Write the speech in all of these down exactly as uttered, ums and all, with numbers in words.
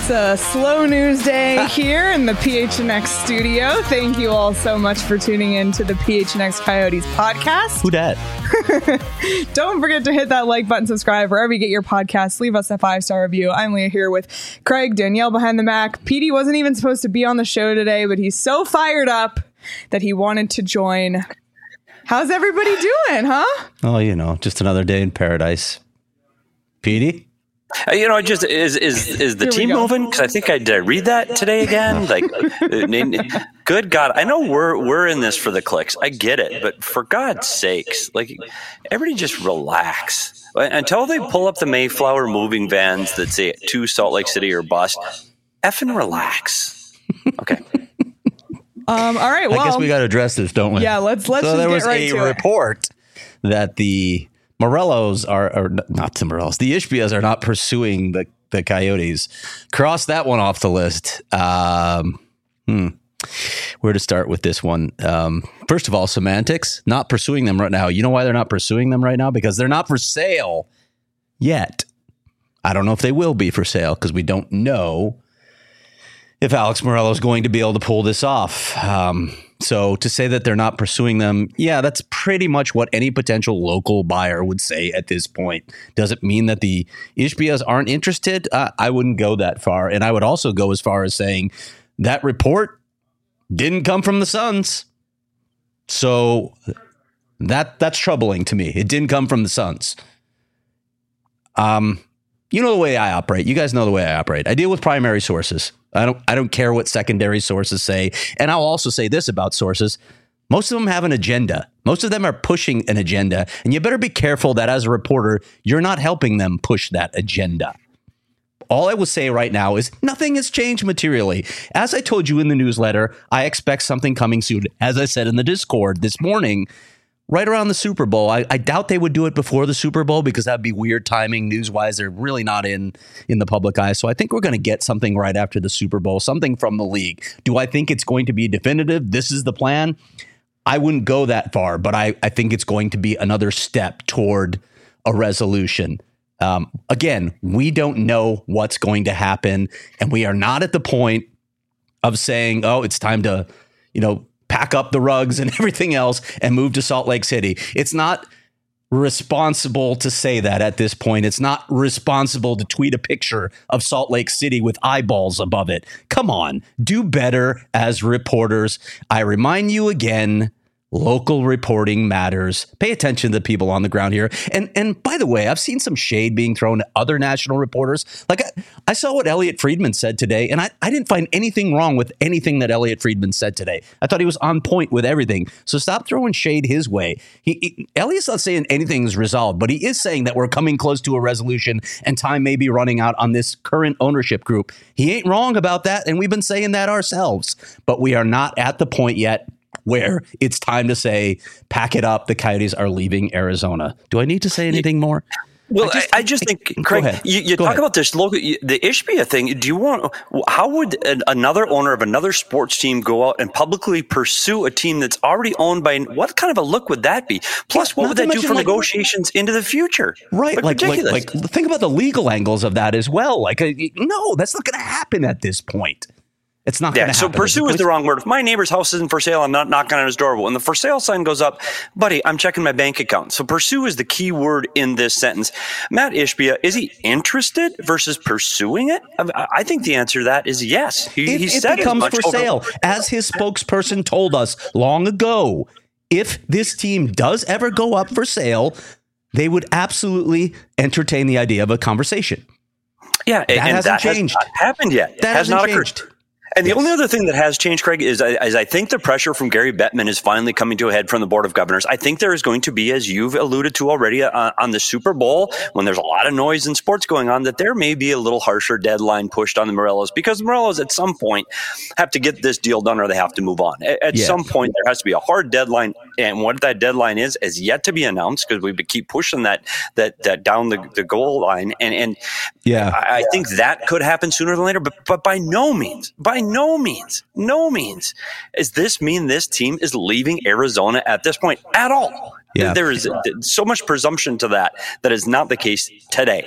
It's a slow news day here in the P H N X studio. Thank you all so much for tuning in to the P H N X Coyotes podcast. Who dat? Don't forget to hit that like button, subscribe wherever you get your podcasts. Leave us a five-star review. I'm Leah here with Craig, Danielle behind the Mac. Petey wasn't even supposed to be on the show today, but he's so fired up that he wanted to join. How's everybody doing, huh? Oh, you know, just another day in paradise. Petey? Uh, you know, just is is is the Here team moving? Because I think I did I read that today again. Like, uh, good God, I know we're we're in this for the clicks. I get it, but for God's sakes, like, everybody just relax until they pull up the Mayflower moving vans that say to Salt Lake City or bust. Effing relax. Okay. Um. All right. Well, I guess we got to address this, don't we? Yeah. Let's let's. So just there get was right a to report it. that the Morellos are, or not the Morellos, the Ishbias are not pursuing the, the Coyotes. Cross that one off the list. Um, hmm. Where to start with this one? Um, first of all, semantics, not pursuing them right now. You know why they're not pursuing them right now? Because they're not for sale yet. I don't know if they will be for sale because we don't know if Alex Morello is going to be able to pull this off. Um, so to say that they're not pursuing them, yeah, that's pretty much what any potential local buyer would say at this point. Does it mean that the Ishbias aren't interested? Uh, I wouldn't go that far. And I would also go as far as saying that report didn't come from the Suns. So that that's troubling to me. It didn't come from the Suns. Um, you know the way I operate. You guys know the way I operate. I deal with primary sources. I don't I don't care what secondary sources say. And I'll also say this about sources. Most of them have an agenda. Most of them are pushing an agenda. And you better be careful that as a reporter, you're not helping them push that agenda. All I will say right now is nothing has changed materially. As I told you in the newsletter, I expect something coming soon. As I said in the Discord this morning, right around the Super Bowl. I, I doubt they would do it before the Super Bowl because that'd be weird timing news-wise. They're really not in, in the public eye. So I think we're going to get something right after the Super Bowl, something from the league. Do I think it's going to be definitive? This is the plan? I wouldn't go that far, but I, I think it's going to be another step toward a resolution. Um, again, we don't know what's going to happen, and we are not at the point of saying, oh, it's time to, you know, pack up the rugs and everything else and move to Salt Lake City. It's not responsible to say that at this point. It's not responsible to tweet a picture of Salt Lake City with eyeballs above it. Come on, do better as reporters. I remind you again, local reporting matters. Pay attention to the people on the ground here. And and by the way, I've seen some shade being thrown at other national reporters. Like I, I saw what Elliot Friedman said today, and I, I didn't find anything wrong with anything that Elliot Friedman said today. I thought he was on point with everything. So stop throwing shade his way. He, he Elliot's not saying anything's resolved, but he is saying that we're coming close to a resolution and time may be running out on this current ownership group. He ain't wrong about that, and we've been saying that ourselves. But we are not at the point yet where it's time to say, pack it up. The Coyotes are leaving Arizona. Do I need to say anything more? Well, I just, I, I just think, Craig, you, you talk ahead. about this local, the Ishbia thing. Do you want, how would an, another owner of another sports team go out and publicly pursue a team that's already owned by, what kind of a look would that be? Plus, what Not would that do for like, negotiations into the future? Right. Like, like, like, like, think about the legal angles of that as well. Like, uh, no, that's not going to happen at this point. It's not yeah, going to so happen. Pursue is the wrong word. If my neighbor's house isn't for sale, I'm not knocking on his door. But when the for sale sign goes up, buddy, I'm checking my bank account. So pursue is the key word in this sentence. Matt Ishbia, is he interested versus pursuing it? I, I think the answer to that is yes. He, if he it said becomes for over- sale, as his spokesperson told us long ago, if this team does ever go up for sale, they would absolutely entertain the idea of a conversation. Yeah, that and hasn't that changed. Has not happened yet. That has hasn't not changed. occurred. And the yes. only other thing that has changed, Craig, is, is I think the pressure from Gary Bettman is finally coming to a head from the Board of Governors. I think there is going to be, as you've alluded to already, uh, on the Super Bowl, when there's a lot of noise in sports going on, that there may be a little harsher deadline pushed on the Morellos, because the Morellos at some point have to get this deal done or they have to move on. At, at yeah. some point, there has to be a hard deadline, and what that deadline is is yet to be announced, because we keep pushing that that, that down the, the goal line. And, and yeah, I, I think that could happen sooner than later, but, but by no means, by no means, No means does this mean this team is leaving Arizona at this point at all. Yeah. There is so much presumption to that that is not the case today.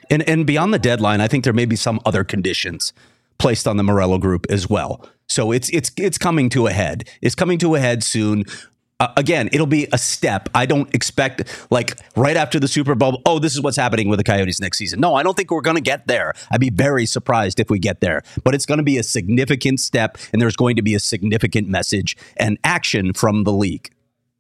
And and beyond the deadline, I think there may be some other conditions placed on the Morello group as well. So it's it's it's coming to a head. It's coming to a head soon. Uh, again, it'll be a step. I don't expect, like, right after the Super Bowl, oh, this is what's happening with the Coyotes next season. No, I don't think we're going to get there. I'd be very surprised if we get there. But it's going to be a significant step, and there's going to be a significant message and action from the league.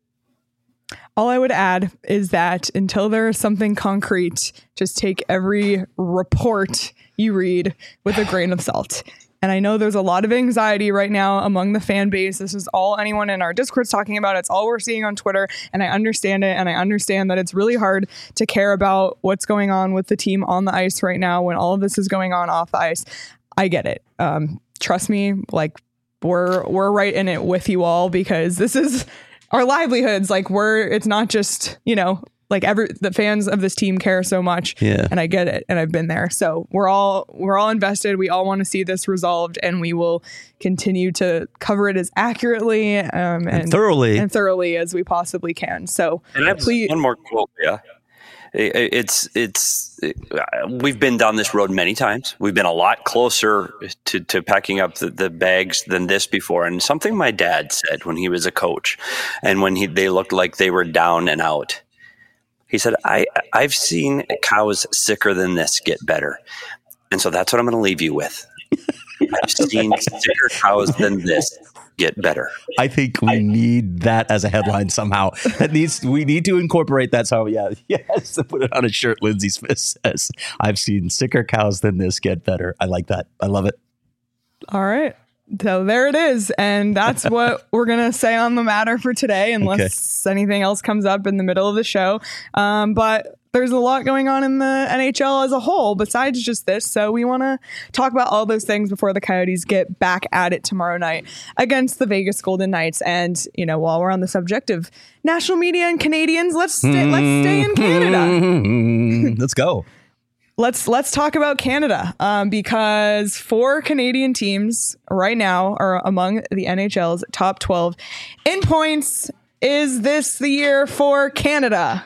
All I would add is that until there is something concrete, just take every report you read with a grain of salt. And I know there's a lot of anxiety right now among the fan base. This is all anyone in our Discord's talking about. It's all we're seeing on Twitter. And I understand it. And I understand that it's really hard to care about what's going on with the team on the ice right now when all of this is going on off the ice. I get it. Um, trust me, like we're we're right in it with you all, because this is our livelihoods. Like we're it's not just, you know, like every the fans of this team care so much. Yeah. And I get it. And I've been there. So we're all we're all invested. We all want to see this resolved, and we will continue to cover it as accurately um, and, and thoroughly and thoroughly as we possibly can. So and I have please, one more quote. Yeah. It's it's it, we've been down this road many times. We've been a lot closer to, to packing up the, the bags than this before. And something my dad said when he was a coach, and when he they looked like they were down and out. He said, I, I've seen cows sicker than this get better. And so that's what I'm going to leave you with. I've seen sicker cows than this get better. I think we need that as a headline somehow. That needs we need to incorporate that somehow. Yeah, yes, to put it on a shirt. Lindsey Smith says, I've seen sicker cows than this get better. I like that. I love it. All right. So there it is. And that's what we're going to say on the matter for today, unless okay. anything else comes up in the middle of the show. Um, but there's a lot going on in the N H L as a whole besides just this. So we want to talk about all those things before the Coyotes get back at it tomorrow night against the Vegas Golden Knights. And, you know, while we're on the subject of national media and Canadians, let's stay, mm-hmm. let's stay in Canada. Let's go. Let's let's talk about Canada, um, because four Canadian teams right now are among the N H L's top twelve in points. Is this the year for Canada?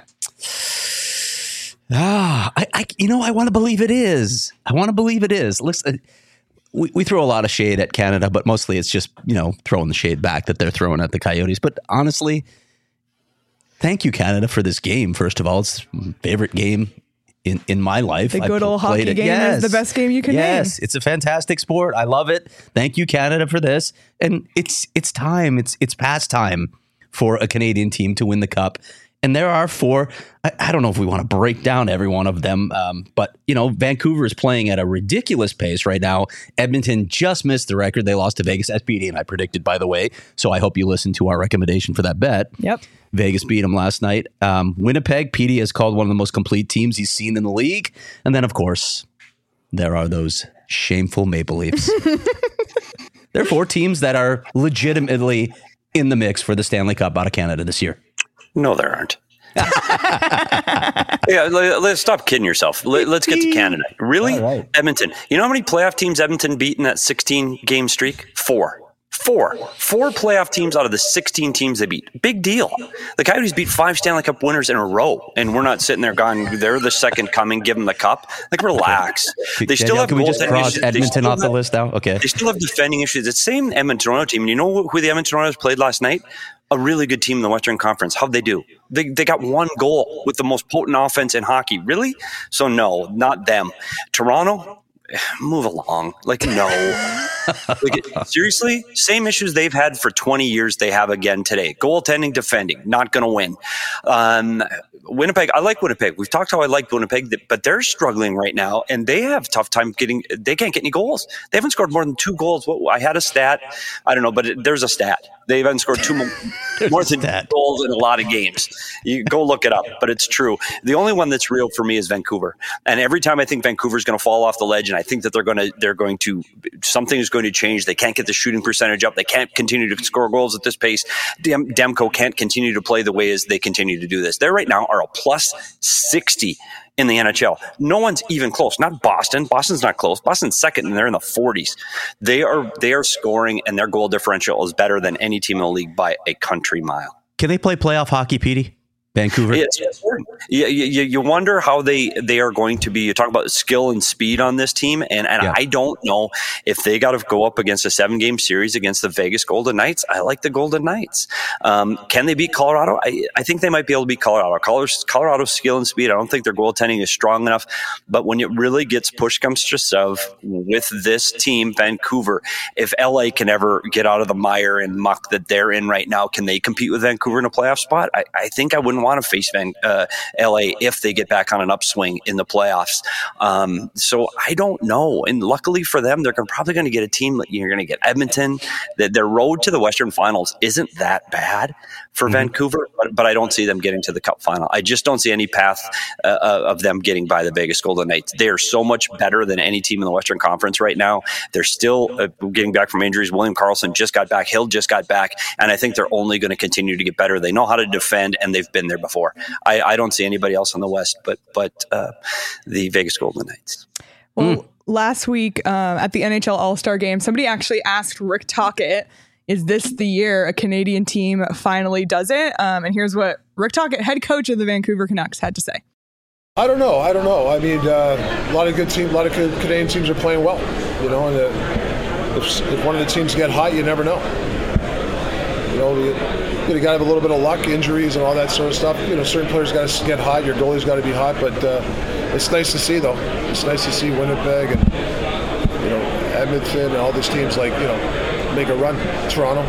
Ah, I, I you know, I want to believe it is. I want to believe it is. Listen, we, we throw a lot of shade at Canada, but mostly it's just, you know, throwing the shade back that they're throwing at the Coyotes. But honestly, thank you, Canada, for this game. First of all, it's my favorite game in, in my life. The good old hockey game yes. is the best game you can yes. name. Yes, it's a fantastic sport. I love it. Thank you, Canada, for this. And it's it's time. It's it's past time for a Canadian team to win the cup. And there are four. I, I don't know if we want to break down every one of them, um, but, you know, Vancouver is playing at a ridiculous pace right now. Edmonton just missed the record. They lost to Vegas, as P D and I predicted, by the way. So I hope you listen to our recommendation for that bet. Yep. Vegas beat them last night. Um, Winnipeg, P D has called one of the most complete teams he's seen in the league. And then, of course, there are those shameful Maple Leafs. There are four teams that are legitimately in the mix for the Stanley Cup out of Canada this year. No, there aren't. yeah, let's stop kidding yourself. Let's get to Canada. Really? Right. Edmonton. You know how many playoff teams Edmonton beat in that sixteen game streak? Four. Four. Four playoff teams out of the sixteen teams they beat. Big deal. The Coyotes beat five Stanley Cup winners in a row, and we're not sitting there going, they're the second coming, give them the cup. Like, relax. They Danielle, still have can we just cross issues. Edmonton off the list now? Okay. They still have defending issues. It's the same Edmonton Toronto team. And you know who the Edmonton Torontos played last night? A really good team in the Western Conference. How'd they do? They they got one goal with the most potent offense in hockey. Really? So no, not them. Toronto, move along. Like, no. Like, seriously? Same issues they've had for twenty years they have again today. Goaltending, defending, not going to win. Um, Winnipeg, I like Winnipeg. We've talked how I like Winnipeg, but they're struggling right now, and they have a tough time getting – they can't get any goals. They haven't scored more than two goals. Well, I had a stat. I don't know, but it, there's a stat. They haven't scored two more, more than two goals in a lot of games. You go look it up, but it's true. The only one that's real for me is Vancouver. And every time I think Vancouver's going to fall off the ledge, and I think that they're going to – they're going to – something is going to change. They can't get the shooting percentage up. They can't continue to score goals at this pace. Dem- Demko can't continue to play the way as they continue to do this. They right now are a plus sixty in the N H L. No one's even close. Not Boston. Boston's not close. Boston's second, and they're in the forties. They are they are scoring, and their goal differential is better than any team in the league by a country mile. Can they play playoff hockey, Petey? Vancouver. It's, you, you, you wonder how they, they are going to be. You talk about skill and speed on this team, and, and Yeah. I don't know if they got to go up against a seven game series against the Vegas Golden Knights. I like the Golden Knights. Um, can they beat Colorado? I, I think they might be able to beat Colorado. Colorado's, Colorado's skill and speed, I don't think their goaltending is strong enough. But when it really gets push comes to shove with this team, Vancouver, if L A can ever get out of the mire and muck that they're in right now, can they compete with Vancouver in a playoff spot? I, I think I wouldn't want to face Van, uh, L A if they get back on an upswing in the playoffs. Um, so I don't know. And luckily for them, they're gonna, probably going to get a team. You're going to get Edmonton. That their road to the Western Finals isn't that bad for mm-hmm. Vancouver, but, but I don't see them getting to the Cup final. I just don't see any path uh, of them getting by the Vegas Golden Knights. They are so much better than any team in the Western Conference right now. They're still uh, getting back from injuries. William Karlsson just got back. Hill just got back. And I think they're only going to continue to get better. They know how to defend, and they've been there before. I, I don't see anybody else in the West but but uh, the Vegas Golden Knights. Well, mm. last week um, at the N H L All-Star Game, somebody actually asked Rick Tocchet, is this the year a Canadian team finally does it? Um, and here's what Rick Tocchet, head coach of the Vancouver Canucks, had to say. I don't know. I don't know. I mean, uh, a lot of good teams, a lot of Canadian teams are playing well. You know, and uh, if, if one of the teams get hot, you never know. You know, you, you got to have a little bit of luck, injuries, and all that sort of stuff. You know, certain players got to get hot. Your goalie's got to be hot. But uh, it's nice to see, though. It's nice to see Winnipeg and you know Edmonton and all these teams like you know make a run. Toronto.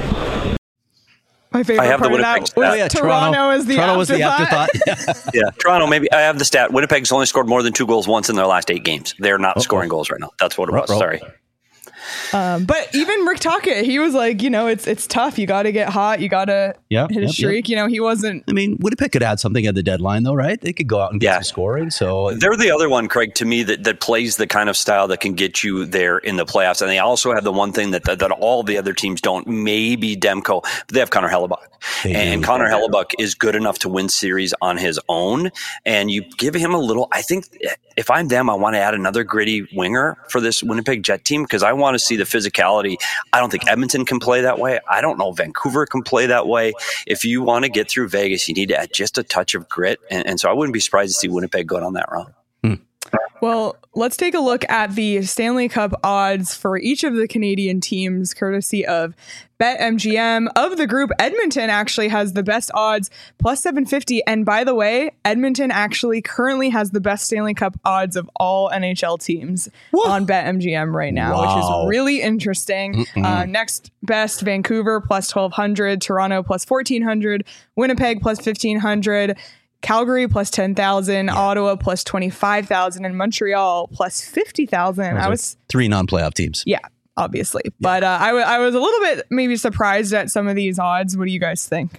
My favorite I have part the of that Winnipeg was oh, yeah, Toronto, Toronto is the Toronto was the afterthought. afterthought. Yeah, Toronto. Maybe I have the stat. Winnipeg's only scored more than two goals once in their last eight games. They're not Uh-oh. scoring goals right now. That's what it was. Ruh-roh. Sorry. Um, but even Rick Tocchet, he was like, you know, it's it's tough. You got to get hot. You got to yep, hit a yep, streak. Yep. You know, he wasn't. I mean, Winnipeg could add something at the deadline, though, right? They could go out and get yeah. some scoring. So they're the other one, Craig, to me that, that plays the kind of style that can get you there in the playoffs. And they also have the one thing that that, that all the other teams don't. Maybe Demko, but they have Connor Hellebuck, they and do. Connor Hellebuck is good enough to win series on his own. And you give him a little. I think if I'm them, I want to add another gritty winger for this Winnipeg Jet team because I want to see the physicality. I don't think Edmonton can play that way. I don't know Vancouver can play that way. If you want to get through Vegas, you need to add just a touch of grit. And, and so I wouldn't be surprised to see Winnipeg go down that route. Hmm. Well, let's take a look at the Stanley Cup odds for each of the Canadian teams, courtesy of BetMGM. Of the group, Edmonton actually has the best odds, plus seven fifty. And by the way, Edmonton actually currently has the best Stanley Cup odds of all N H L teams Whoa. on BetMGM right now, wow. which is really interesting. Uh, next best, Vancouver, plus twelve hundred, Toronto, plus fourteen hundred, Winnipeg, plus fifteen hundred, Calgary plus ten thousand, yeah. Ottawa plus twenty-five thousand, and Montreal plus fifty thousand. I was three non-playoff teams. Yeah, obviously. Yeah. But uh, I, w- I was a little bit maybe surprised at some of these odds. What do you guys think?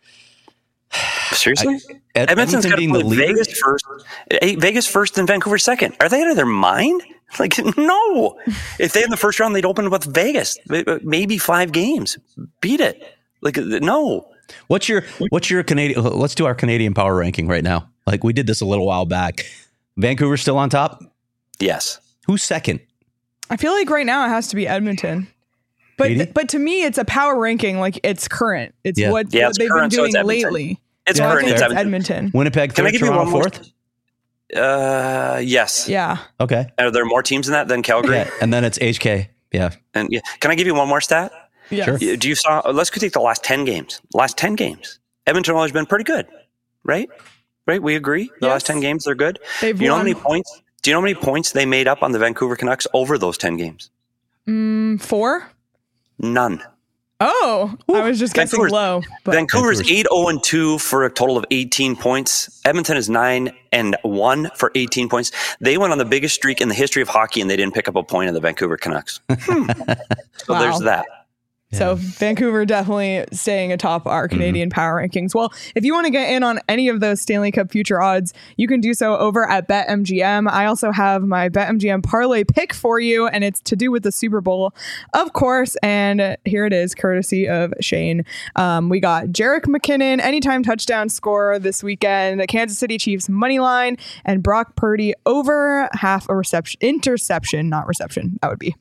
Seriously? I, Ed- Edmonton's got to the put Vegas first, Vegas first and Vancouver second. Are they out of their mind? Like, no. If they in the first round, they'd open with Vegas. Maybe five games. Beat it. Like, no. What's your what's your Canadian? Let's do our Canadian power ranking right now. Like we did this a little while back. Vancouver still on top? Yes. Who's second? I feel like right now it has to be Edmonton. But th- but to me, it's a power ranking. Like it's current. It's yeah. what, yeah, what it's they've current, been doing so lately. It's so current. It's Edmonton. Edmonton. Winnipeg Can third, I give Toronto you one fourth? More? Uh, yes. Yeah. Okay. Are there more teams in that than Calgary? Yeah, and then it's H K. Yeah. And yeah, can I give you one more stat? Yes. Sure. Do you saw? Let's go take the last ten games. Last ten games, Edmonton always been pretty good, right? Right? We agree. The yes. last ten games, they're good. They've do you know won. how many points? Do you know how many points they made up on the Vancouver Canucks over those ten games? Mm, four. None. Oh, Ooh. I was just guessing Vancouver's, low. But. Vancouver's eight zero and two for a total of eighteen points. Edmonton is nine and one for eighteen points. They went on the biggest streak in the history of hockey, and they didn't pick up a point in the Vancouver Canucks. Hmm. So wow. there's that. So Vancouver definitely staying atop our Canadian mm-hmm. power rankings. Well, if you want to get in on any of those Stanley Cup future odds, you can do so over at BetMGM. I also have my BetMGM parlay pick for you, and it's to do with the Super Bowl, of course. And here it is, courtesy of Shane. Um, we got Jerick McKinnon, anytime touchdown scorer this weekend, the Kansas City Chiefs money line, and Brock Purdy over half a reception, interception, not reception. That would be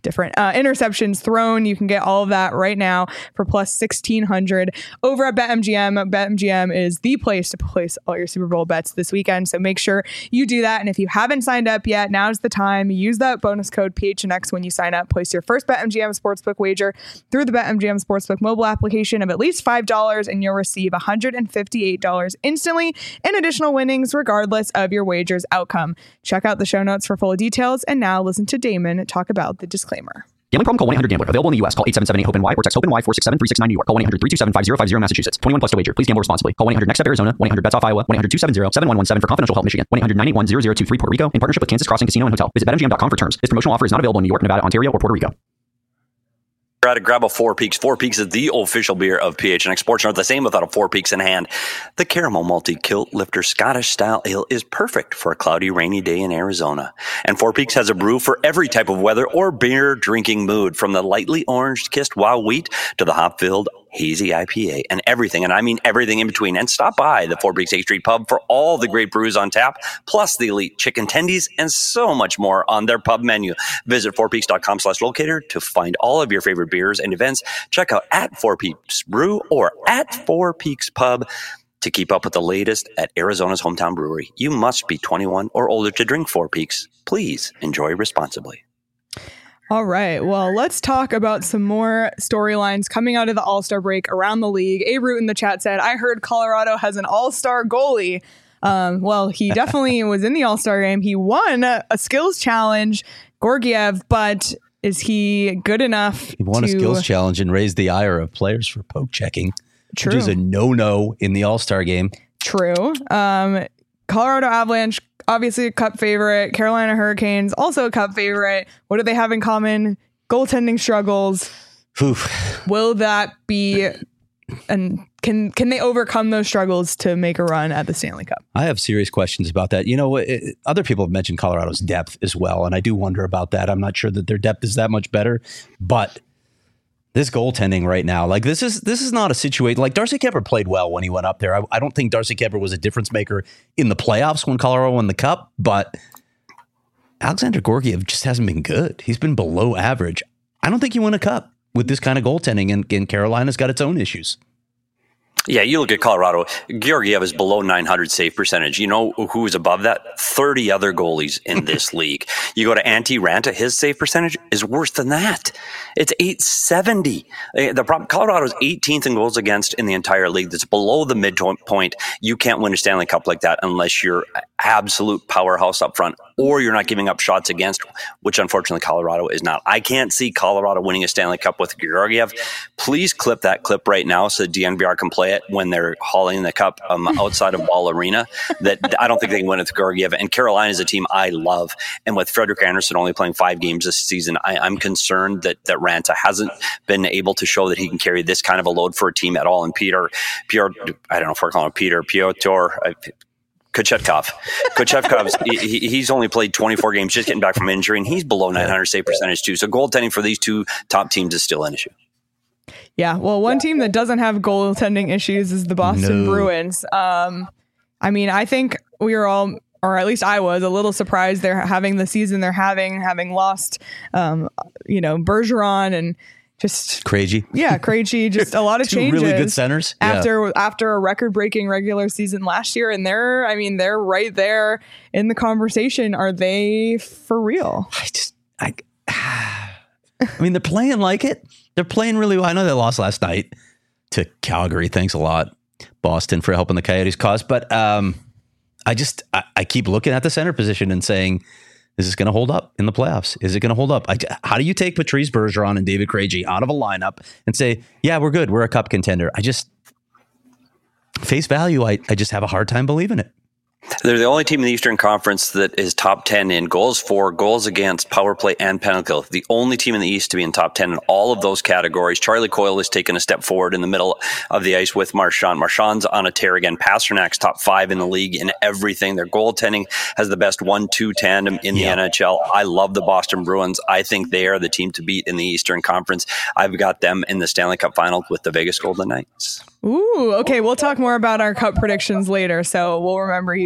different uh, interceptions thrown. You can get all of that right now for plus sixteen hundred over at BetMGM. BetMGM is the place to place all your Super Bowl bets this weekend. So make sure you do that. And if you haven't signed up yet, now's the time. Use that bonus code P H N X when you sign up. Place your first BetMGM Sportsbook wager through the BetMGM Sportsbook mobile application of at least five dollars, and you'll receive one hundred fifty-eight dollars instantly in additional winnings regardless of your wager's outcome. Check out the show notes for full details. And now listen to Damon talk about the disclaimer. Gambling problem? Call one eight hundred gambler. Available in the U S. Call eight seven seven eight hope N Y or text HOPE-NY four six seven three six nine New York. Call one eight hundred three two seven five zero five zero Massachusetts. twenty-one plus to wager. Please gamble responsibly. Call one eight hundred next step Arizona. one eight hundred bets off Iowa. one eight hundred two seven zero seven one one seven for confidential help Michigan. one eight hundred nine eight one zero zero two three Puerto Rico in partnership with Kansas Crossing Casino and Hotel. Visit bet M G M dot com for terms. This promotional offer is not available in New York, Nevada, Ontario, or Puerto Rico. Try to grab a Four Peaks. Four Peaks is the official beer of P H N X Sports. Not the same without a Four Peaks in hand. The Caramel Malty Kilt Lifter Scottish Style Ale is perfect for a cloudy, rainy day in Arizona. And Four Peaks has a brew for every type of weather or beer drinking mood, from the lightly orange-kissed wild wheat to the hop-filled hazy I P A, and everything, and I mean everything in between. And stop by the Four Peaks eighth Street Pub for all the great brews on tap, plus the elite chicken tendies and so much more on their pub menu. Visit four peaks dot com slash locator to find all of your favorite beers and events. Check out at Four Peaks Brew or at Four Peaks Pub to keep up with the latest at Arizona's hometown brewery. You must be twenty-one or older to drink Four Peaks. Please enjoy responsibly. All right. Well, let's talk about some more storylines coming out of the All-Star break around the league. A Root in the chat said, I heard Colorado has an all-star goalie. Um, well, he definitely was in the All-Star game. He won a, a skills challenge, Georgiev, but is he good enough? He won to... a skills challenge and raised the ire of players for poke checking, True. which is a no-no in the All-Star game. True. Um, Colorado Avalanche, obviously a cup favorite. Carolina Hurricanes, also a cup favorite. What do they have in common? Goaltending struggles. Oof. Will that be, and can can they overcome those struggles to make a run at the Stanley Cup? I have serious questions about that. You know, it, other people have mentioned Colorado's depth as well, and I do wonder about that. I'm not sure that their depth is that much better, but this goaltending right now, like this is this is not a situation like Darcy Kuemper played well when he went up there. I, I don't think Darcy Kuemper was a difference maker in the playoffs when Colorado won the cup, but Alexander Georgiev just hasn't been good. He's been below average. I don't think you win a cup with this kind of goaltending, and, and Carolina's got its own issues. Yeah, you look at Colorado. Georgiev is below nine hundred save percentage. You know who is above that? thirty other goalies in this league. You go to Antti Ranta, his save percentage is worse than that. It's eight seventy. The problem, Colorado's eighteenth in goals against in the entire league. That's below the midpoint. You can't win a Stanley Cup like that unless you're absolute powerhouse up front, or you're not giving up shots against, which unfortunately Colorado is not. I can't see Colorado winning a Stanley Cup with Georgiev. Please clip that clip right now so the D N V R can play it when they're hauling the cup um, outside of Ball Arena. That I don't think they can win with Georgiev. And Carolina is a team I love. And with Frederik Andersen only playing five games this season, I, I'm concerned that, that Ranta hasn't been able to show that he can carry this kind of a load for a team at all. And Peter, Peter I don't know if we're calling him Peter, Piotr, I, Kochetkov. Kochetkov, he, he's only played twenty-four games, just getting back from injury, and he's below nine hundred save percentage too. So goaltending for these two top teams is still an issue. Yeah, well, one team that doesn't have goaltending issues is the Boston No. Bruins. Um, I mean, I think we were all, or at least I was, a little surprised they're having the season they're having, having lost, um, you know, Bergeron and just Krejci. Yeah, Krejci, just a lot of Two changes. really good centers. Yeah. After after a record-breaking regular season last year, and they're, I mean, they're right there in the conversation. Are they for real? I just, I, I mean, they're playing like it. They're playing really well. I know they lost last night to Calgary. Thanks a lot, Boston, for helping the Coyotes cause. But um, I just, I, I keep looking at the center position and saying, is this going to hold up in the playoffs? Is it going to hold up? I, how do you take Patrice Bergeron and David Krejci out of a lineup and say, yeah, we're good. We're a cup contender. I just, face value, I, I just have a hard time believing it. They're the only team in the Eastern Conference that is top ten in goals for, goals against, power play, and penalty kill. The only team in the East to be in top ten in all of those categories. Charlie Coyle has taken a step forward in the middle of the ice with Marchand. Marchand's on a tear again. Pasternak's top five in the league in everything. Their goaltending has the best one two tandem in the yeah. N H L. I love the Boston Bruins. I think they are the team to beat in the Eastern Conference. I've got them in the Stanley Cup final with the Vegas Golden Knights. Ooh, okay. We'll talk more about our cup predictions later. So we'll remember he's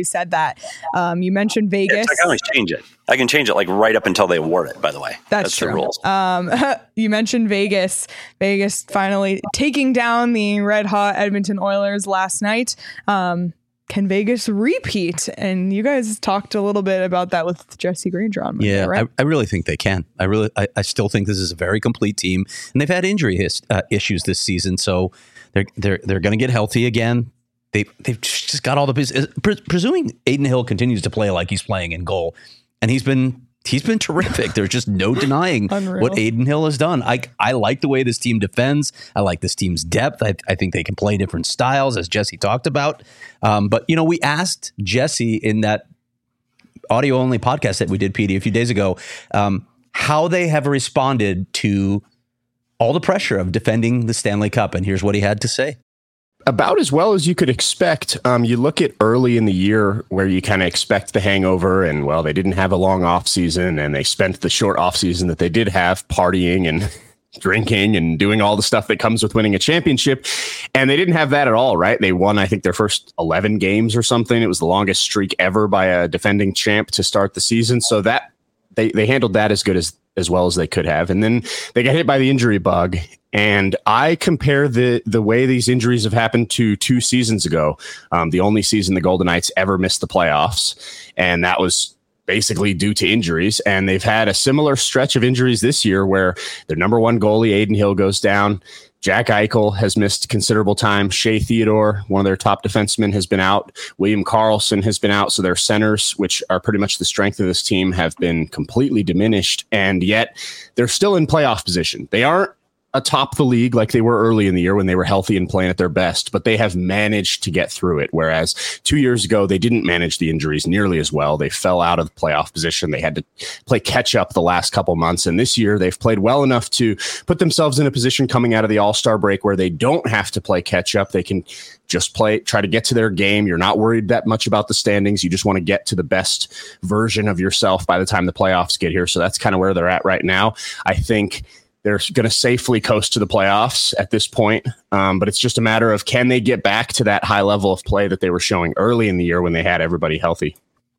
said that. Um, you mentioned Vegas. Yeah, I can always change it. I can change it like right up until they award it, by the way. That's, That's true. the rules. Um, you mentioned Vegas. Vegas finally taking down the red hot Edmonton Oilers last night. Um, Can Vegas repeat? And you guys talked a little bit about that with Jesse Granger on Monday, yeah, right? I, I really think they can. I really, I, I still think this is a very complete team, and they've had injury his, uh, issues this season, so they're they're they're going to get healthy again. They they've just got all the pieces. Pre- presuming Adin Hill continues to play like he's playing in goal, and he's been. He's been terrific. There's just no denying what Adin Hill has done. I I like the way this team defends. I like this team's depth. I, I think they can play different styles, as Jesse talked about. Um, but, you know, we asked Jesse in that audio-only podcast that we did, P D, a few days ago, um, how they have responded to all the pressure of defending the Stanley Cup. And here's what he had to say. About as well as you could expect. Um, you look at early in the year where you kind of expect the hangover, and well, they didn't have a long off season, and they spent the short off season that they did have partying and drinking and doing all the stuff that comes with winning a championship. And they didn't have that at all, right? They won, I think, their first eleven games or something. It was the longest streak ever by a defending champ to start the season. So that they, they handled that as good as as well as they could have. And then they got hit by the injury bug. And I compare the the way these injuries have happened to two seasons ago, um, the only season the Golden Knights ever missed the playoffs. And that was basically due to injuries. And they've had a similar stretch of injuries this year where their number one goalie, Adin Hill, goes down. Jack Eichel has missed considerable time. Shea Theodore, one of their top defensemen, has been out. William Karlsson has been out. So their centers, which are pretty much the strength of this team, have been completely diminished. And yet they're still in playoff position. They aren't atop the league like they were early in the year when they were healthy and playing at their best, but they have managed to get through it. Whereas two years ago, they didn't manage the injuries nearly as well. They fell out of the playoff position. They had to play catch up the last couple months. And this year they've played well enough to put themselves in a position coming out of the All-Star break where they don't have to play catch up. They can just play, try to get to their game. You're not worried that much about the standings. You just want to get to the best version of yourself by the time the playoffs get here. So that's kind of where they're at right now. I think they're going to safely coast to the playoffs at this point. Um, but it's just a matter of, can they get back to that high level of play that they were showing early in the year when they had everybody healthy?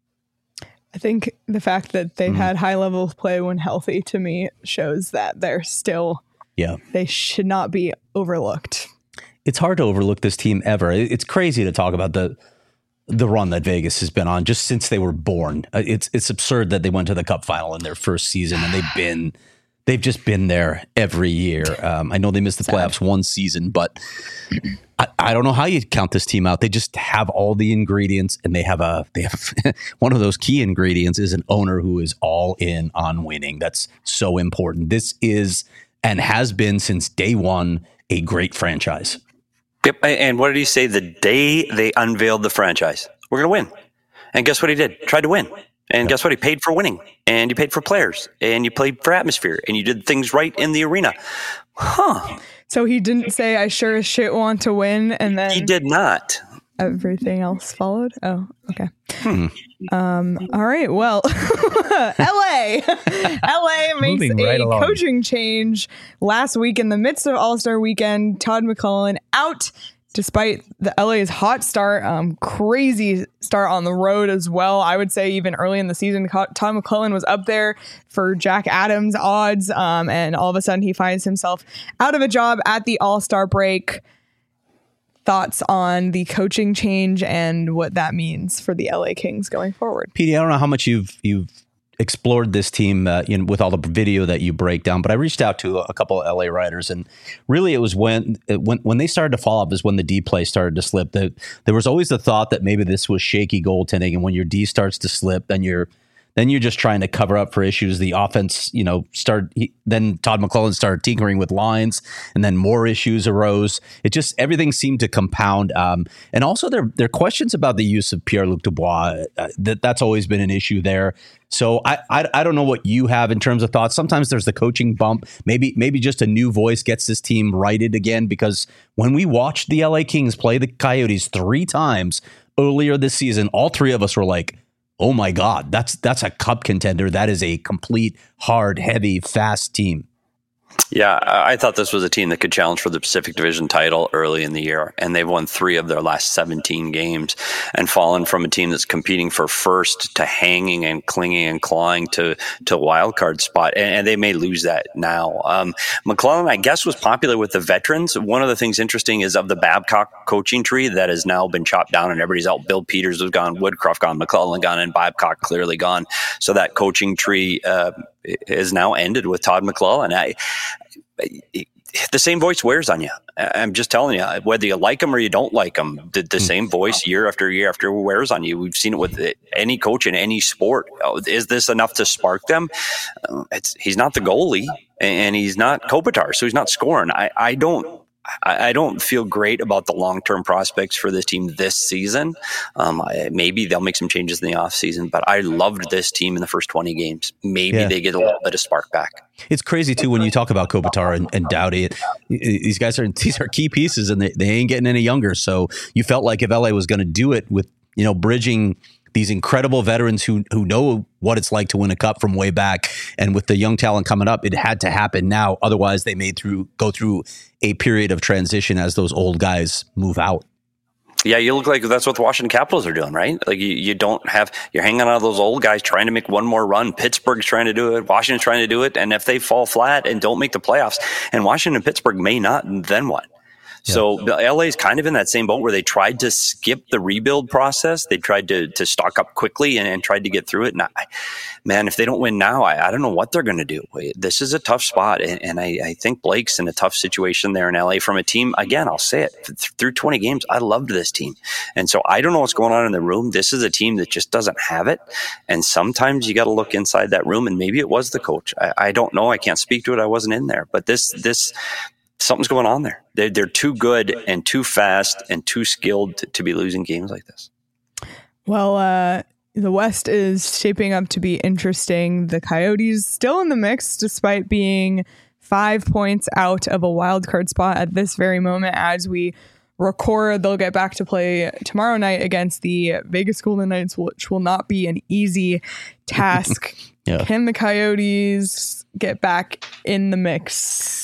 I think the fact that they've mm. had high level of play when healthy, to me, shows that they're still, yeah, they should not be overlooked. It's hard to overlook this team ever. It's crazy to talk about the the run that Vegas has been on just since they were born. It's it's absurd that they went to the Cup final in their first season, and they've been they've just been there every year. Um, I know they missed the playoffs one season, but I, I don't know how you count this team out. They just have all the ingredients, and they have a they have one of those key ingredients is an owner who is all in on winning. That's so important. This is and has been since day one a great franchise. Yep. And what did he say the day they unveiled the franchise? We're going to win. And guess what he did? Tried to win. And guess what? He paid for winning. And you paid for players. And you played for atmosphere. And you did things right in the arena. Huh. So he didn't say, I sure as shit want to win. And then he did not. Everything else followed? Oh, okay. Hmm. Um, all right. Well, L A. L A makes right a along. coaching change last week in the midst of All-Star weekend. Todd McLellan out despite the L A's hot start. Um, crazy start on the road as well. I would say even early in the season, Todd McLellan was up there for Jack Adams odds. Um, and all of a sudden he finds himself out of a job at the All-Star break. Thoughts on the coaching change and what that means for the L A Kings going forward? P D, I don't know how much you've you've explored this team uh, you know, with all the video that you break down, but I reached out to a couple of L A writers, and really it was when when when they started to fall off is when the D play started to slip. The, there was always the thought that maybe this was shaky goaltending, and when your D starts to slip, then you're then you're just trying to cover up for issues. The offense, you know, started. He, then Todd McLellan started tinkering with lines, and then more issues arose. It just everything seemed to compound. Um, and also, there there are questions about the use of Pierre-Luc Dubois. Uh, that that's always been an issue there. So I, I I don't know what you have in terms of thoughts. Sometimes there's the coaching bump. Maybe maybe just a new voice gets this team righted again. Because when we watched the L A Kings play the Coyotes three times earlier this season, all three of us were like, oh my God, that's that's a cup contender. That is a complete, hard, heavy, fast team. Yeah, I thought this was a team that could challenge for the Pacific Division title early in the year, and they've won three of their last seventeen games and fallen from a team that's competing for first to hanging and clinging and clawing to to wild card spot, and, and they may lose that now. Um, McClellan, I guess, was popular with the veterans. One of the things interesting is of the Babcock coaching tree that has now been chopped down and everybody's out. Bill Peters was gone, Woodcroft gone, McClellan gone, and Babcock clearly gone. So that coaching tree uh, is now ended with Todd McClellan. I, the same voice wears on you. I'm just telling you, whether you like them or you don't like them, the, the same voice year after year after wears on you. We've seen it with any coach in any sport. Oh, is this enough to spark them? Uh, it's, he's not the goalie, and he's not Kopitar, so he's not scoring. I, I don't. I don't feel great about the long-term prospects for this team this season. Um, I, maybe they'll make some changes in the offseason, but I loved this team in the first twenty games. Maybe yeah. they get a little bit of spark back. It's crazy, too, when you talk about Kopitar and, and Doughty. It, these guys are these are key pieces, and they, they ain't getting any younger. So you felt like if L A was going to do it with, you know, bridging these incredible veterans who who know what it's like to win a cup from way back, and with the young talent coming up, it had to happen now. Otherwise, they may through go through a period of transition as those old guys move out. Yeah, you look like that's what the Washington Capitals are doing, right? Like you, you don't have, you're hanging on those old guys trying to make one more run. Pittsburgh's trying to do it. Washington's trying to do it. And if they fall flat and don't make the playoffs, and Washington and Pittsburgh may not, then what? Yeah. So L A is kind of in that same boat where they tried to skip the rebuild process. They tried to to stock up quickly and, and tried to get through it. And I, man, if they don't win now, I, I don't know what they're going to do. This is a tough spot. And, and I, I think Blake's in a tough situation there in L A from a team. Again, I'll say it, through twenty games, I loved this team. And so I don't know what's going on in the room. This is a team that just doesn't have it. And sometimes you got to look inside that room, and maybe it was the coach. I, I don't know. I can't speak to it. I wasn't in there. But this, this, something's going on there. They're, they're too good and too fast and too skilled to, to be losing games like this. Well, uh, the West is shaping up to be interesting. The Coyotes still in the mix, despite being five points out of a wild card spot at this very moment as we record. They'll get back to play tomorrow night against the Vegas Golden Knights, which will not be an easy task. Yeah. Can the Coyotes get back in the mix?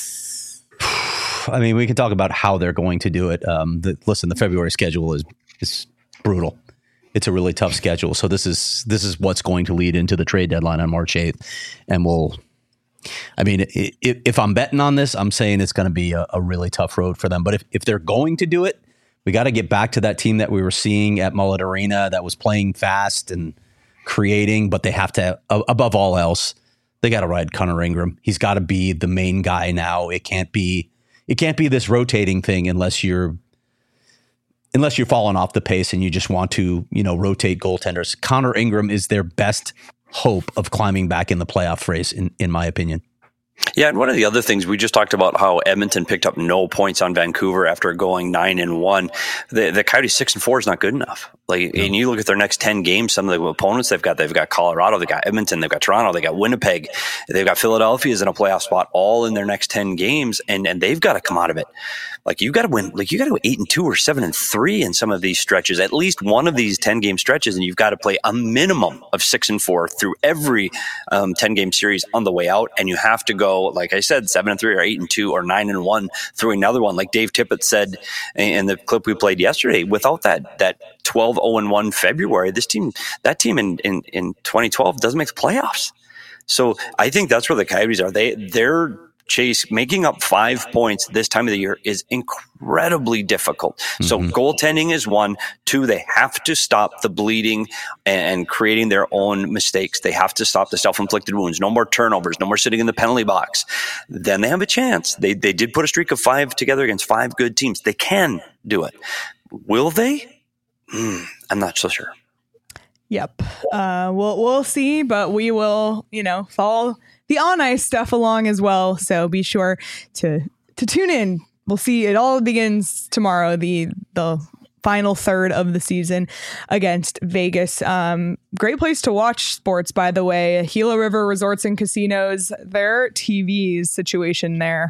I mean, we can talk about how they're going to do it. Um, the, listen, the February schedule is is brutal. It's a really tough schedule. So this is this is what's going to lead into the trade deadline on March eighth. And we'll, I mean, if, if I'm betting on this, I'm saying it's going to be a, a really tough road for them. But if, if they're going to do it, we got to get back to that team that we were seeing at Mullet Arena that was playing fast and creating, but they have to, above all else, they got to ride Connor Ingram. He's got to be the main guy now. It can't be It can't be this rotating thing unless you're unless you're falling off the pace and you just want to, you know, rotate goaltenders. Connor Ingram is their best hope of climbing back in the playoff race, in, in my opinion. Yeah, and one of the other things, we just talked about how Edmonton picked up no points on Vancouver after going nine and one. The the Coyotes six and four is not good enough. Like, no. And you look at their next ten games, some of the opponents they've got, they've got Colorado, they've got Edmonton, they've got Toronto, they got Winnipeg, they've got Philadelphia's in a playoff spot, all in their next ten games, and and they've got to come out of it. Like, you got to win, like you got to go eight and two or seven and three in some of these stretches, at least one of these ten game stretches, and you've got to play a minimum of six and four through every um, ten game series on the way out, and you have to go, like I said, seven and three or eight and two or nine and one through another one, like Dave Tippett said in the clip we played yesterday. Without that that twelve oh and one February, this team, that team in, in, in twenty twelve doesn't make the playoffs. So I think that's where the Coyotes are. They they're Chase, making up five points this time of the year is incredibly difficult. Mm-hmm. So goaltending is one. Two, they have to stop the bleeding and creating their own mistakes. They have to stop the self-inflicted wounds. No more turnovers. No more sitting in the penalty box. Then they have a chance. They they did put a streak of five together against five good teams. They can do it. Will they? Mm, I'm not so sure. Yep. Uh, we'll we'll see, but we will, you know, follow the on ice stuff along as well. So be sure to to tune in. We'll see. It all begins tomorrow. The the final third of the season against Vegas. Um, great place to watch sports, by the way. Gila River Resorts and Casinos. Their T V's situation there.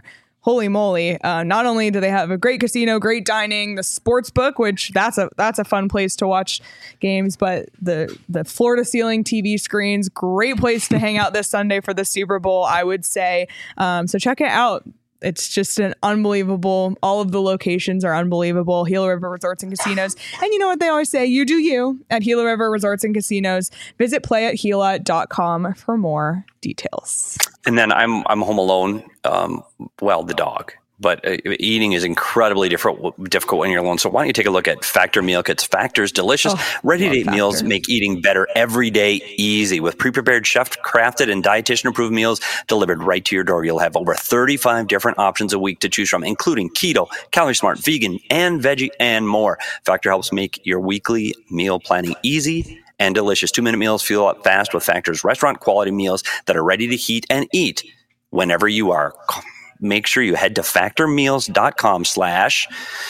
holy moly. Uh, not only do they have a great casino, great dining, the sports book, which that's a that's a fun place to watch games, but the the floor to ceiling T V screens, great place to hang out this Sunday for the Super Bowl, I would say. Um, so check it out. It's just an unbelievable. All of the locations are unbelievable. Gila River Resorts and Casinos. And you know what they always say? You do you at Gila River Resorts and Casinos. Visit play at gila dot com for more details. And then I'm I'm home alone. Um, well, the dog. But uh, eating is incredibly different, difficult when you're alone. So why don't you take a look at Factor Meal Kits? Factor's delicious, oh, ready-to-eat meals make eating better every day easy. With pre-prepared, chef-crafted, and dietitian-approved meals delivered right to your door. You'll have over thirty-five different options a week to choose from, including keto, calorie smart, vegan, and veggie, and more. Factor helps make your weekly meal planning easy and delicious. Two-minute meals fuel up fast with Factor's restaurant-quality meals that are ready to heat and eat whenever you are. Make sure you head to factormeals.com slash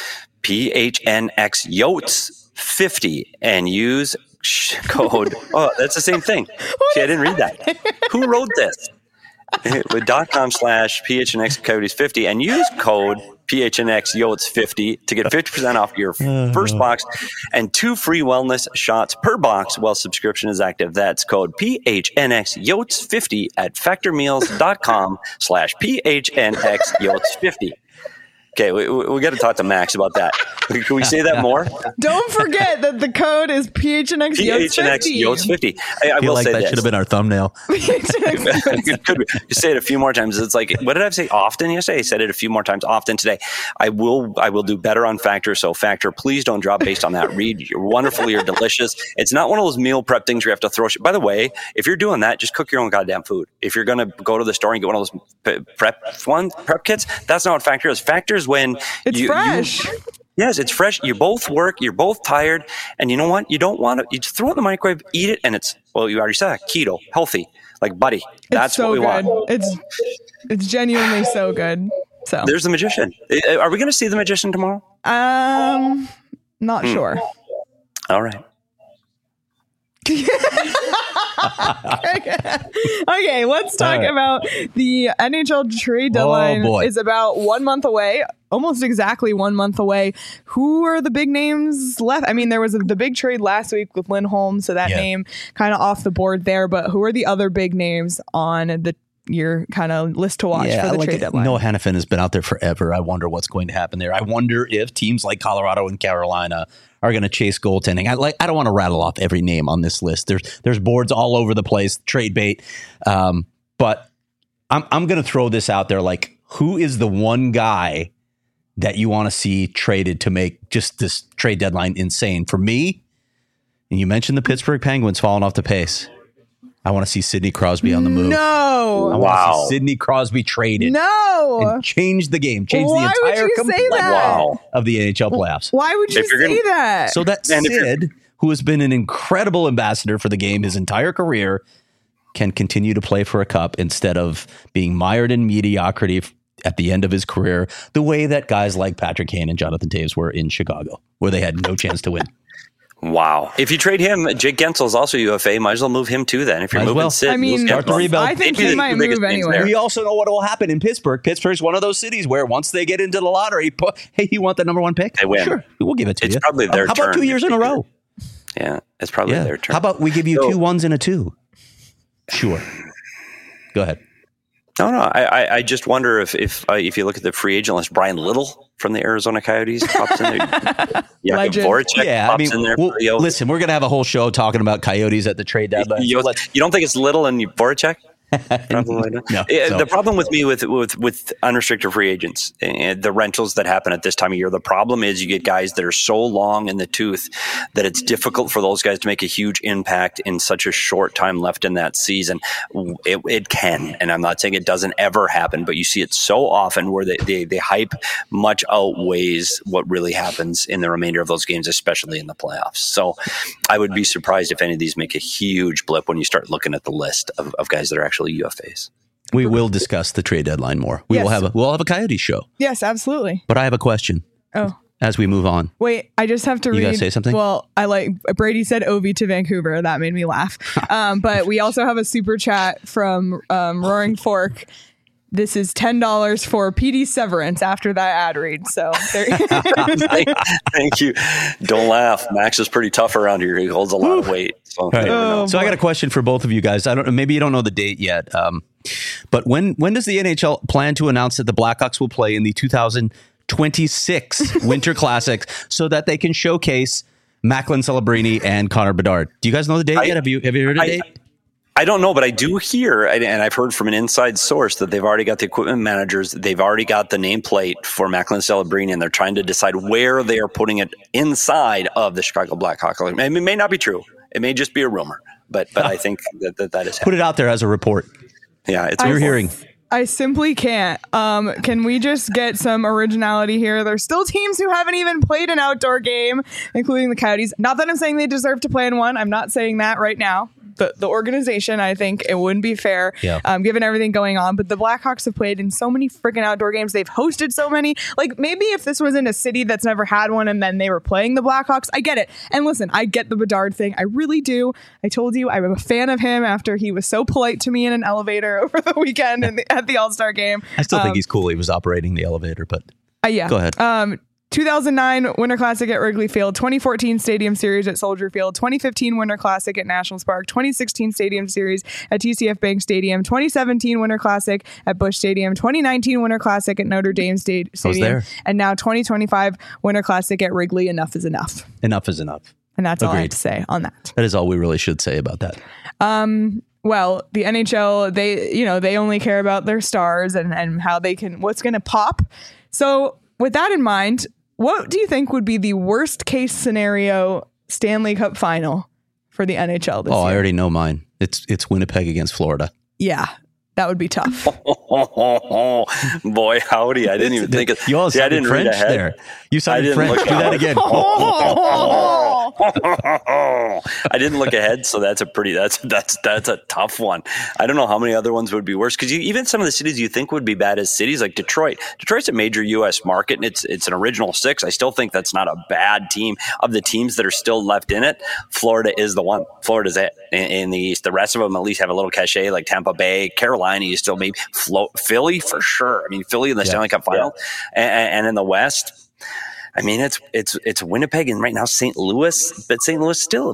PHNX Yotes fifty and use code. Oh, that's the same thing. See, I didn't read that. Who wrote this? With dot com slash PHNX Coyotes fifty and use code P H N X Yotes fifty to get fifty percent off your first box and two free wellness shots per box while subscription is active. That's code P H N X Yotes fifty at factormeals.com slash PHNX Yotes fifty. Okay, we, we, we got to talk to Max about that. Can we say that more? Don't forget that the code is P H N X Yotes fifty. I, I, I feel will like say that this. should have been our thumbnail. It could be. You say it a few more times. It's like, what did I say often yesterday? I said it a few more times often today. I will I will do better on Factor. So Factor, please don't drop based on that read. You're wonderful. You're delicious. It's not one of those meal prep things where you have to throw shit. By the way, if you're doing that, just cook your own goddamn food. If you're going to go to the store and get one of those prep one prep kits, that's not what Factor is. Factor is when it's you, fresh. You, Yes, it's fresh. You both work. You're both tired. And you know what? You don't want to, you throw it in the microwave, eat it, and it's, well, you already said keto, healthy. Like, buddy, that's so what we good. want. It's it's genuinely so good. So there's the magician. Are we going to see the magician tomorrow? Um, not hmm. sure. All right. Okay, let's talk right. about the N H L trade deadline. Oh, is about one month away, almost exactly one month away. Who are the big names left? I mean, there was a, the big trade last week with Lindholm, so that yeah. name kind of off the board there. But who are the other big names on the your kind of list to watch yeah, for the like trade deadline? Noah Hannafin has been out there forever. I wonder what's going to happen there. I wonder if teams like Colorado and Carolina are going to chase goaltending. I like. I don't want to rattle off every name on this list. There's there's boards all over the place, trade bait. Um, but I'm I'm going to throw this out there. Like, who is the one guy that you want to see traded to make just this trade deadline insane? For me, and you mentioned the Pittsburgh Penguins falling off the pace. I want to see Sidney Crosby on the move. No. I want wow. to see Sidney Crosby traded. No. And change the game. Change Why the entire would you say that? Wow. of the N H L playoffs. Why would you say gonna, that? So that Sid, who has been an incredible ambassador for the game his entire career, can continue to play for a cup instead of being mired in mediocrity at the end of his career, the way that guys like Patrick Kane and Jonathan Toews were in Chicago, where they had no chance to win. Wow. If you trade him, Jake Gensel is also U F A. Might as well move him too then. If you're Might moving well. Sid, I mean, start the rebuild. I think he might move anyway. We also know what will happen in Pittsburgh. Pittsburgh's one of those cities where once they get into the lottery, hey, you want the number one pick? They win. Sure, we'll give it to it's you. It's probably their How turn. about two years in a row? Yeah, it's probably yeah. their turn. How about we give you so, two ones and a two? Sure. Go ahead. No, no. I, I, I just wonder if if uh, if you look at the free agent list, Brian Little from the Arizona Coyotes pops in there. Jakub Voracek yeah, pops I mean, in there. Well, listen, we're gonna have a whole show talking about Coyotes at the trade deadline. You, you, you don't think it's Little and Voracek? Probably not. No, it, so. The problem with me with with with unrestricted free agents and the rentals that happen at this time of year, the problem is you get guys that are so long in the tooth that it's difficult for those guys to make a huge impact in such a short time left in that season. It, it can, and I'm not saying it doesn't ever happen, but you see it so often where they, they, they hype much outweighs what really happens in the remainder of those games, especially in the playoffs. So I would be surprised if any of these make a huge blip when you start looking at the list of, of guys that are actually U F As. We will discuss the trade deadline more. We yes. will have a we'll have a Coyotes show. Yes, absolutely. But I have a question. Oh. As we move on. Wait, I just have to you read. You gotta say something? Well, I like Brady said Ovi to Vancouver. That made me laugh. um, but we also have a super chat from um, Roaring Fork. this is ten dollars for P D severance after that ad read. So there thank, thank you. Don't laugh. Max is pretty tough around here. He holds a lot of weight. So, right. oh, so I got a question for both of you guys. I don't maybe you don't know the date yet. Um, but when when does the N H L plan to announce that the Blackhawks will play in the two thousand twenty-six Winter Classic so that they can showcase Macklin Celebrini and Connor Bedard? Do you guys know the date I, yet? Have you have you heard a I, date? I don't know, but I do hear, and I've heard from an inside source that they've already got the equipment managers. They've already got the nameplate for Macklin Celebrini, and they're trying to decide where they are putting it inside of the Chicago Blackhawks. I mean, it may not be true. It may just be a rumor, but but I think that that, that is Put it out there as a report. Yeah, it's You're hearing. I simply can't. Um, can we just get some originality here? There's still teams who haven't even played an outdoor game, including the Coyotes. Not that I'm saying they deserve to play in one. I'm not saying that right now. The, the organization, I think it wouldn't be fair, yeah. um, given everything going on. But the Blackhawks have played in so many freaking outdoor games. They've hosted so many. Like, maybe if this was in a city that's never had one and then they were playing the Blackhawks, I get it. And listen, I get the Bedard thing. I really do. I told you I'm a fan of him after he was so polite to me in an elevator over the weekend in the, at the All-Star game. I still um, think he's cool. He was operating the elevator, but uh, yeah. Go ahead. Um, two thousand nine Winter Classic at Wrigley Field, twenty fourteen Stadium Series at Soldier Field, twenty fifteen Winter Classic at Nationals Park, twenty sixteen Stadium Series at T C F Bank Stadium, twenty seventeen Winter Classic at Busch Stadium, twenty nineteen Winter Classic at Notre Dame State Stadium, and now twenty twenty-five Winter Classic at Wrigley. Enough is enough. Enough is enough. And that's all I have Agreed. to say on that. That is all we really should say about that. Um, well, the N H L, they, you know, they only care about their stars and, and how they can, what's going to pop. So with that in mind, what do you think would be the worst case scenario Stanley Cup final for the N H L this oh, year? I already know mine. It's it's Winnipeg against Florida. Yeah, that would be tough. Oh, boy, howdy. I didn't even think of You all See, I sounded didn't read French ahead. there. You sounded didn't French. look Do that ahead. again. I didn't look ahead, so that's a pretty that's that's that's a tough one. I don't know how many other ones would be worse because even some of the cities you think would be bad as cities like Detroit. Detroit's a major U S market and it's it's an original six. I still think that's not a bad team. Of the teams that are still left in it, Florida is the one. Florida's it in, in the East. The rest of them at least have a little cachet, like Tampa Bay, Carolina. You still maybe float Philly for sure. I mean Philly in the Yeah. Stanley Cup final, yeah. and, and in the West. I mean, it's it's it's Winnipeg and right now Saint Louis, but Saint Louis still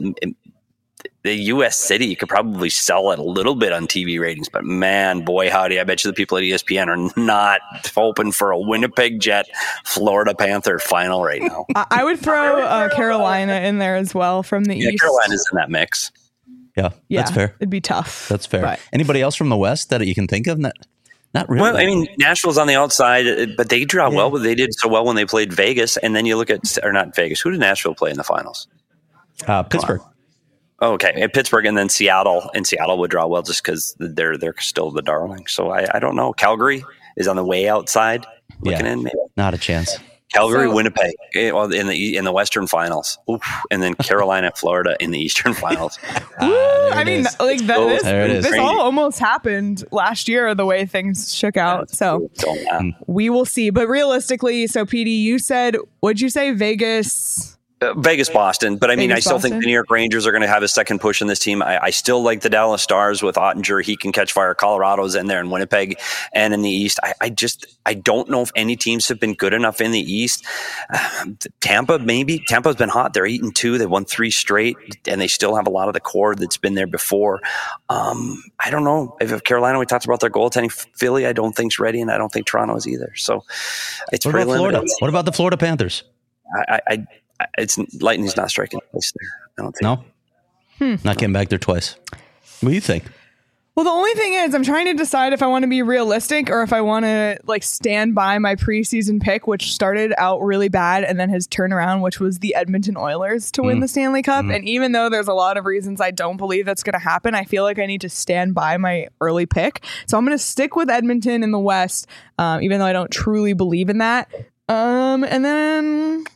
the U S city. You could probably sell it a little bit on T V ratings, but man, boy, howdy! I bet you the people at E S P N are not hoping for a Winnipeg Jet Florida Panther final right now. I, I would throw uh, Carolina in there as well from the Yeah, East. Carolina's in that mix. Yeah, Yeah, that's fair. It'd be tough. That's fair. But Anybody else from the West that you can think of? Not, not really. Well, I mean, Nashville's on the outside, but they draw well. But they did so well when they played Vegas, and then you look at or not Vegas. Who did Nashville play in the finals? uh, Pittsburgh. Oh, okay, and Pittsburgh, and then Seattle, and Seattle would draw well just because they're they're still the darling. So I, I don't know. Calgary is on the way outside, looking Yeah. in. Maybe Not a chance. Calgary, So- Winnipeg, eh, well, in the in the Western Finals, Oof. And then Carolina, Florida in the Eastern Finals. Woo! there I it mean, is. like that, Oh, this, there it is. this Crazy. all almost happened last year, the way things shook out. So So, yeah. we will see. But realistically, so P D, you said, what'd you say? Vegas. Uh, Vegas, Boston, but I mean, Vegas, I still think Boston. the New York Rangers are going to have a second push in this team. I, I still like the Dallas Stars with Ottinger. He can catch fire. Colorado's in there in Winnipeg and in the East. I, I just, I don't know if any teams have been good enough in the East. Uh, Tampa, maybe. Tampa's been hot. They're eight and two. They won three straight, and they still have a lot of the core that's been there before. Um, I don't know if, if Carolina. We talked about their goaltending. Philly, I don't think's ready, and I don't think Toronto is either. So it's What pretty about Florida? limited. What about the Florida Panthers? I, I, I, it's lightning's not striking place there. I don't think. No? Hmm. Not getting back there twice. What do you think? Well, the only thing is, I'm trying to decide if I want to be realistic or if I want to like stand by my preseason pick, which started out really bad and then has turned around, which was the Edmonton Oilers to win the Stanley Cup. And even though there's a lot of reasons I don't believe that's going to happen, I feel like I need to stand by my early pick. So I'm going to stick with Edmonton in the West, um, even though I don't truly believe in that. Um, and then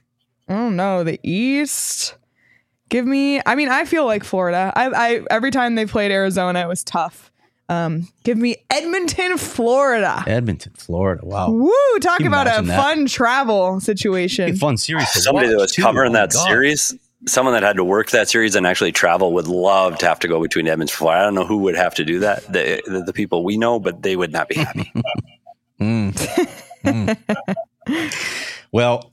I don't know, the East. Give me, I mean, I feel like Florida. I, I every time they played Arizona, it was tough. Um, give me Edmonton, Florida. Edmonton, Florida. Wow. Woo! Talk Can you about a imagine that? fun travel situation. Fun series. to Somebody watch, that was too. covering Oh my that God. series. someone that had to work that series and actually travel would love to have to go between Edmonds and Florida. I don't know who would have to do that. The, the, the people we know, but they would not be happy. mm. Mm. Well,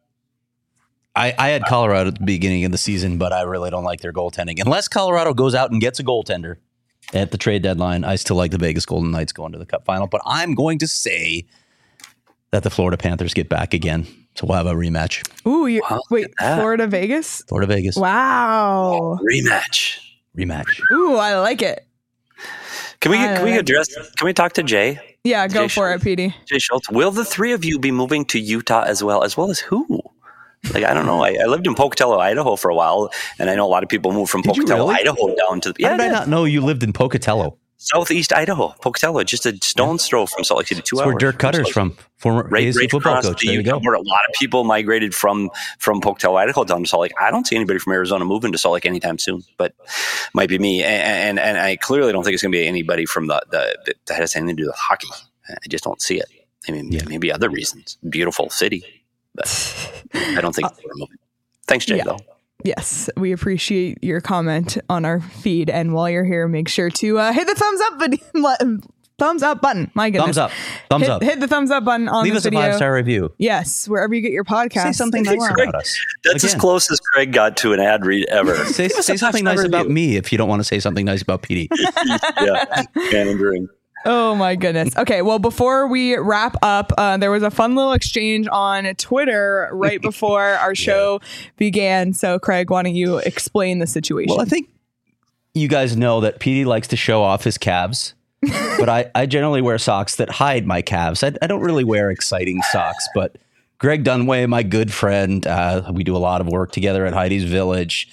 I, I had Colorado at the beginning of the season, but I really don't like their goaltending. Unless Colorado goes out and gets a goaltender at the trade deadline, I still like the Vegas Golden Knights going to the Cup final. But I'm going to say that the Florida Panthers get back again. So we'll have a rematch. Ooh, you, Wow, wait, look at that. Florida, Vegas? Florida, Vegas. Wow. Rematch. Rematch. Ooh, I like it. Can we I can we like address? Can we talk to Jay? Yeah, go Jay for Schultz. it, Petey. Jay Schultz. Will the three of you be moving to Utah as well? As well as who? Like, I don't know. I, I lived in Pocatello, Idaho for a while, and I know a lot of people move from Did you Pocatello, really? Idaho down to the How yeah, did I yeah. not know you lived in Pocatello? Southeast Idaho, Pocatello, just a stone's throw from Salt Lake City, two That's hours. where Dirk Cutter's Salt Lake from, former Right, A S C right football across coach. the There you Utah, go. where a lot of people migrated from from Pocatello, Idaho, down to Salt Lake. I don't see anybody from Arizona moving to Salt Lake anytime soon, but might be me. And and, and I clearly don't think it's going to be anybody from the, the that has anything to do with hockey. I just don't see it. I mean, Yeah. maybe other reasons. Beautiful city, but I don't think we're moving. Thanks, Jay. Yeah. Though. Yes, we appreciate your comment on our feed. And while you're here, make sure to uh, hit the thumbs up button. Thumbs up button. My goodness. Thumbs up. Thumbs hit, up. Hit the thumbs up button on Leave this us video. a five-star review. Yes, wherever you get your podcast. Say something Thank nice you. about us. That's as Again. close as Craig got to an ad read ever. Say, Give us say a something five-star nice about review. me if you don't want to say something nice about Petey. Yeah, pandering. Oh my goodness. Okay, well, before we wrap up, uh, there was a fun little exchange on Twitter right before our show began. So, Craig, why don't you explain the situation? Well, I think you guys know that Petey likes to show off his calves, but I, I generally wear socks that hide my calves. I, I don't really wear exciting socks, but Greg Dunway, my good friend, uh, we do a lot of work together at Heidi's Village.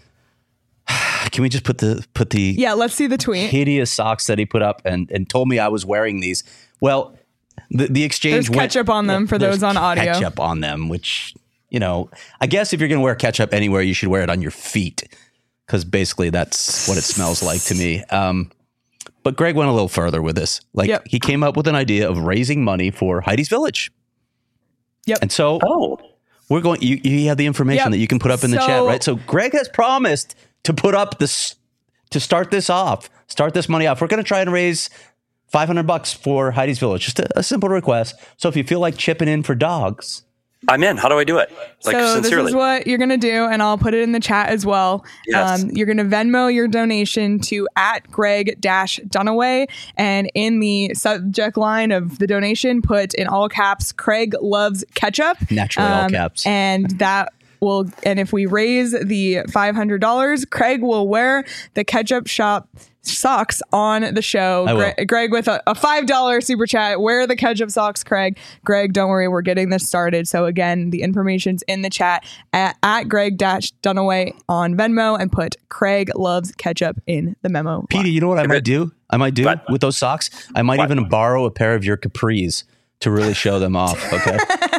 Can we just put the put the yeah, let's see the tweet. hideous socks that he put up and, and told me I was wearing these? Well, the, the exchange There's went, ketchup on them for there's those on audio. Ketchup on them, which, you know, I guess if you're going to wear ketchup anywhere, you should wear it on your feet because basically that's what it smells like to me. Um, but Greg went a little further with this. Like Yep. he came up with an idea of raising money for Heidi's Village. Yep. And so Oh, we're going, you, you have the information Yep. that you can put up in the So- chat, right? So Greg has promised to put up this, to start this off, start this money off. We're going to try and raise five hundred bucks for Heidi's Village. Just a, a simple request. So if you feel like chipping in for dogs, I'm in. How do I do it? Like, so sincerely. this is what you're going to do, and I'll put it in the chat as well. Yes. Um, you're going to Venmo your donation to at Greg dash Dunaway, and in the subject line of the donation, put in all caps, Craig loves ketchup. Naturally all caps. And that will, and if we raise the five hundred dollars, Craig will wear the ketchup shop socks on the show. I will. Greg, Greg with a, a five dollars super chat. Wear the ketchup socks, Craig. Greg, don't worry, we're getting this started. So again, the information's in the chat at, at Greg dash Dunaway on Venmo, and put Craig loves ketchup in the memo. Petey, you know what I might do? I might do What? with those socks. I might What? even borrow a pair of your capris to really show them off. Okay.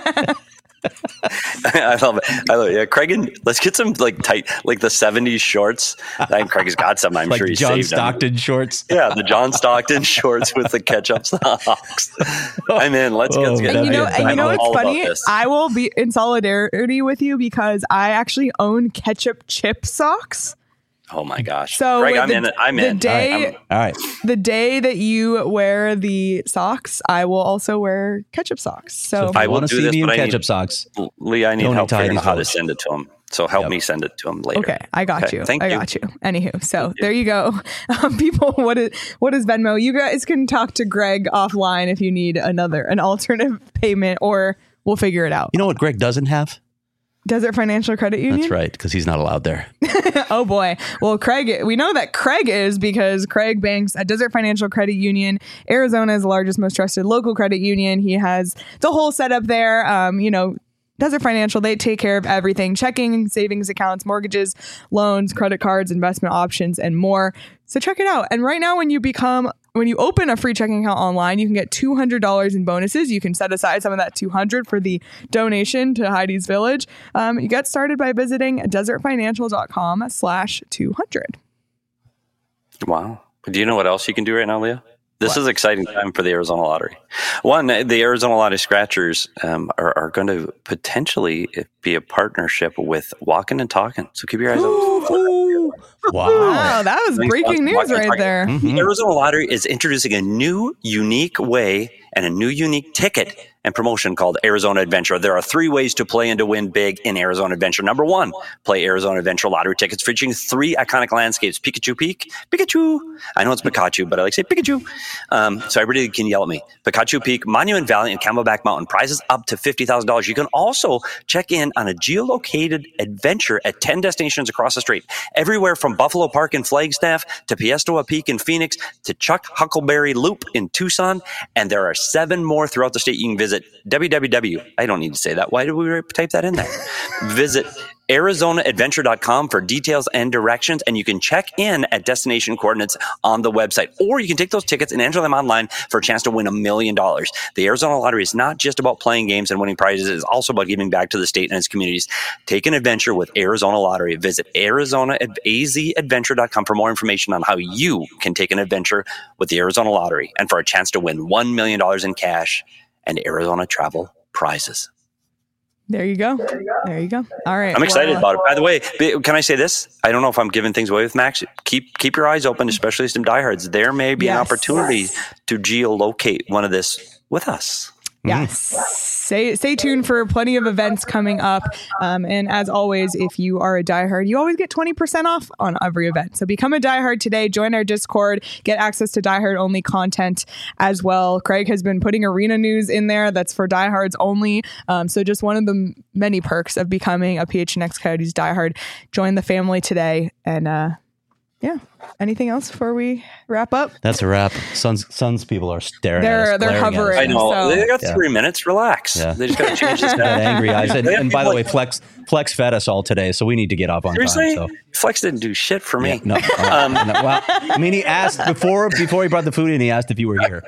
I love it. I love it. Yeah, Craig, and let's get some like tight, like the seventies shorts. I think Craig has got some. I'm like sure he's John saved them. Stockton shorts. Yeah, the John Stockton shorts with the ketchup socks. I'm in. Let's Oh, get. get And you know, That'd be and you know I'm what's all about funny? this. I will be in solidarity with you because I actually own ketchup chip socks. Oh my gosh. So Craig, with I'm the- in. I'm the in. day- I'm- All right. The day that you wear the socks, I will also wear ketchup socks. So, if you I will want to do see this, me in but I need- ketchup socks, Lee, I need Donate help to figuring Heidi's out how to Village. send it to him. So help Yep. me send it to him later. okay, I got Okay, you. thank I you. got you. Anywho, so there you go. Um, people, what is what is Venmo? You guys can talk to Greg offline if you need another an alternative payment, or we'll figure it out. you know what Greg doesn't have? Desert Financial Credit Union. That's right, because he's not allowed there. Oh boy. Well, Craig, we know that Craig is because Craig banks at Desert Financial Credit Union, Arizona's largest, most trusted local credit union. He has the whole setup there. Um, you know, Desert Financial, they take care of everything: checking, savings accounts, mortgages, loans, credit cards, investment options, and more. So check it out. And right now, when you become when you open a free checking account online, you can get two hundred dollars in bonuses. You can set aside some of that two hundred dollars for the donation to Heidi's Village. Um, you get started by visiting desertfinancial.com slash 200. Wow. Do you know what else you can do right now, Leah? This is exciting time for the Arizona Lottery. One, the Arizona Lottery Scratchers um, are, are going to potentially be a partnership with Walking and Talking. So keep your eyes open. Wow. Wow, that was Thanks, breaking Walking news and right Talking. there. Mm-hmm. The Arizona Lottery is introducing a new, unique way and a new, unique ticket and promotion called Arizona Adventure. There are three ways to play and to win big in Arizona Adventure. Number one, play Arizona Adventure lottery tickets featuring three iconic landscapes. Pikachu Peak, Pikachu. I know it's Pikachu, but I like to say Pikachu. Um, so everybody can yell at me. Pikachu Peak, Monument Valley, and Camelback Mountain. Prizes up to fifty thousand dollars. You can also check in on a geolocated adventure at ten destinations across the state. Everywhere from Buffalo Park in Flagstaff to Piestoa Peak in Phoenix to Chuck Huckleberry Loop in Tucson. And there are seven more throughout the state you can visit. w w w. I don't need to say that. Why did we type that in there? Visit Arizona Adventure dot com for details and directions, and you can check in at destination coordinates on the website. Or you can take those tickets and enter them online for a chance to win a million dollars. The Arizona Lottery is not just about playing games and winning prizes. It is also about giving back to the state and its communities. Take an adventure with Arizona Lottery. Visit Arizona A Z Adventure dot com for more information on how you can take an adventure with the Arizona Lottery and for a chance to win one million dollars in cash and Arizona travel prizes. There you go. There you go. All right. I'm excited well, about it. By the way, can I say this? I don't know if I'm giving things away with Max. Keep keep your eyes open, especially some diehards. There may be Yes. an opportunity to geolocate one of this with us. Yes. Stay, stay tuned for plenty of events coming up. Um, and as always, if you are a diehard, you always get twenty percent off on every event. So become a diehard today. Join our Discord. Get access to diehard only content as well. Craig has been putting arena news in there that's for diehards only. Um, so just one of the many perks of becoming a P H N X Coyotes diehard. Join the family today. And uh, yeah. Anything else before we wrap up? That's a wrap. Suns Suns people are staring They're- at us. they're glaring at us. hovering. I know. So- they got Yeah. three minutes. Relax. Yeah. They just got to change this. Got angry eyes. And, They have and by the people way, like- Flex Flex fed us all today, so we need to get off on Seriously? time. So. Flex didn't do shit for me. Yeah, no, uh, no, well, I mean, he asked before before he brought the food in. He asked if you were here.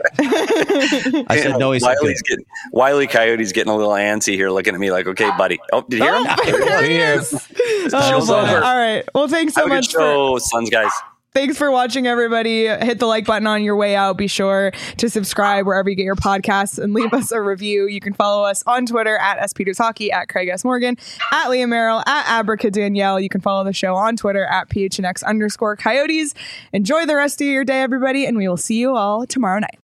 I said no. He said Wiley's good. getting, Wiley Coyote's getting a little antsy here, looking at me like, "Okay, buddy." Oh, did you hear him? There he Here. is. Oh, show's boy. over. All right. Well, thanks so Have a good much for show, Suns guys. Thanks for watching, everybody. Hit the like button on your way out. Be sure to subscribe wherever you get your podcasts and leave us a review. You can follow us on Twitter at S Peters Hockey, at Craig S. Morgan, at Leah Merrill, at Abraca Danielle. You can follow the show on Twitter at P H N X underscore Coyotes. Enjoy the rest of your day, everybody, and we will see you all tomorrow night.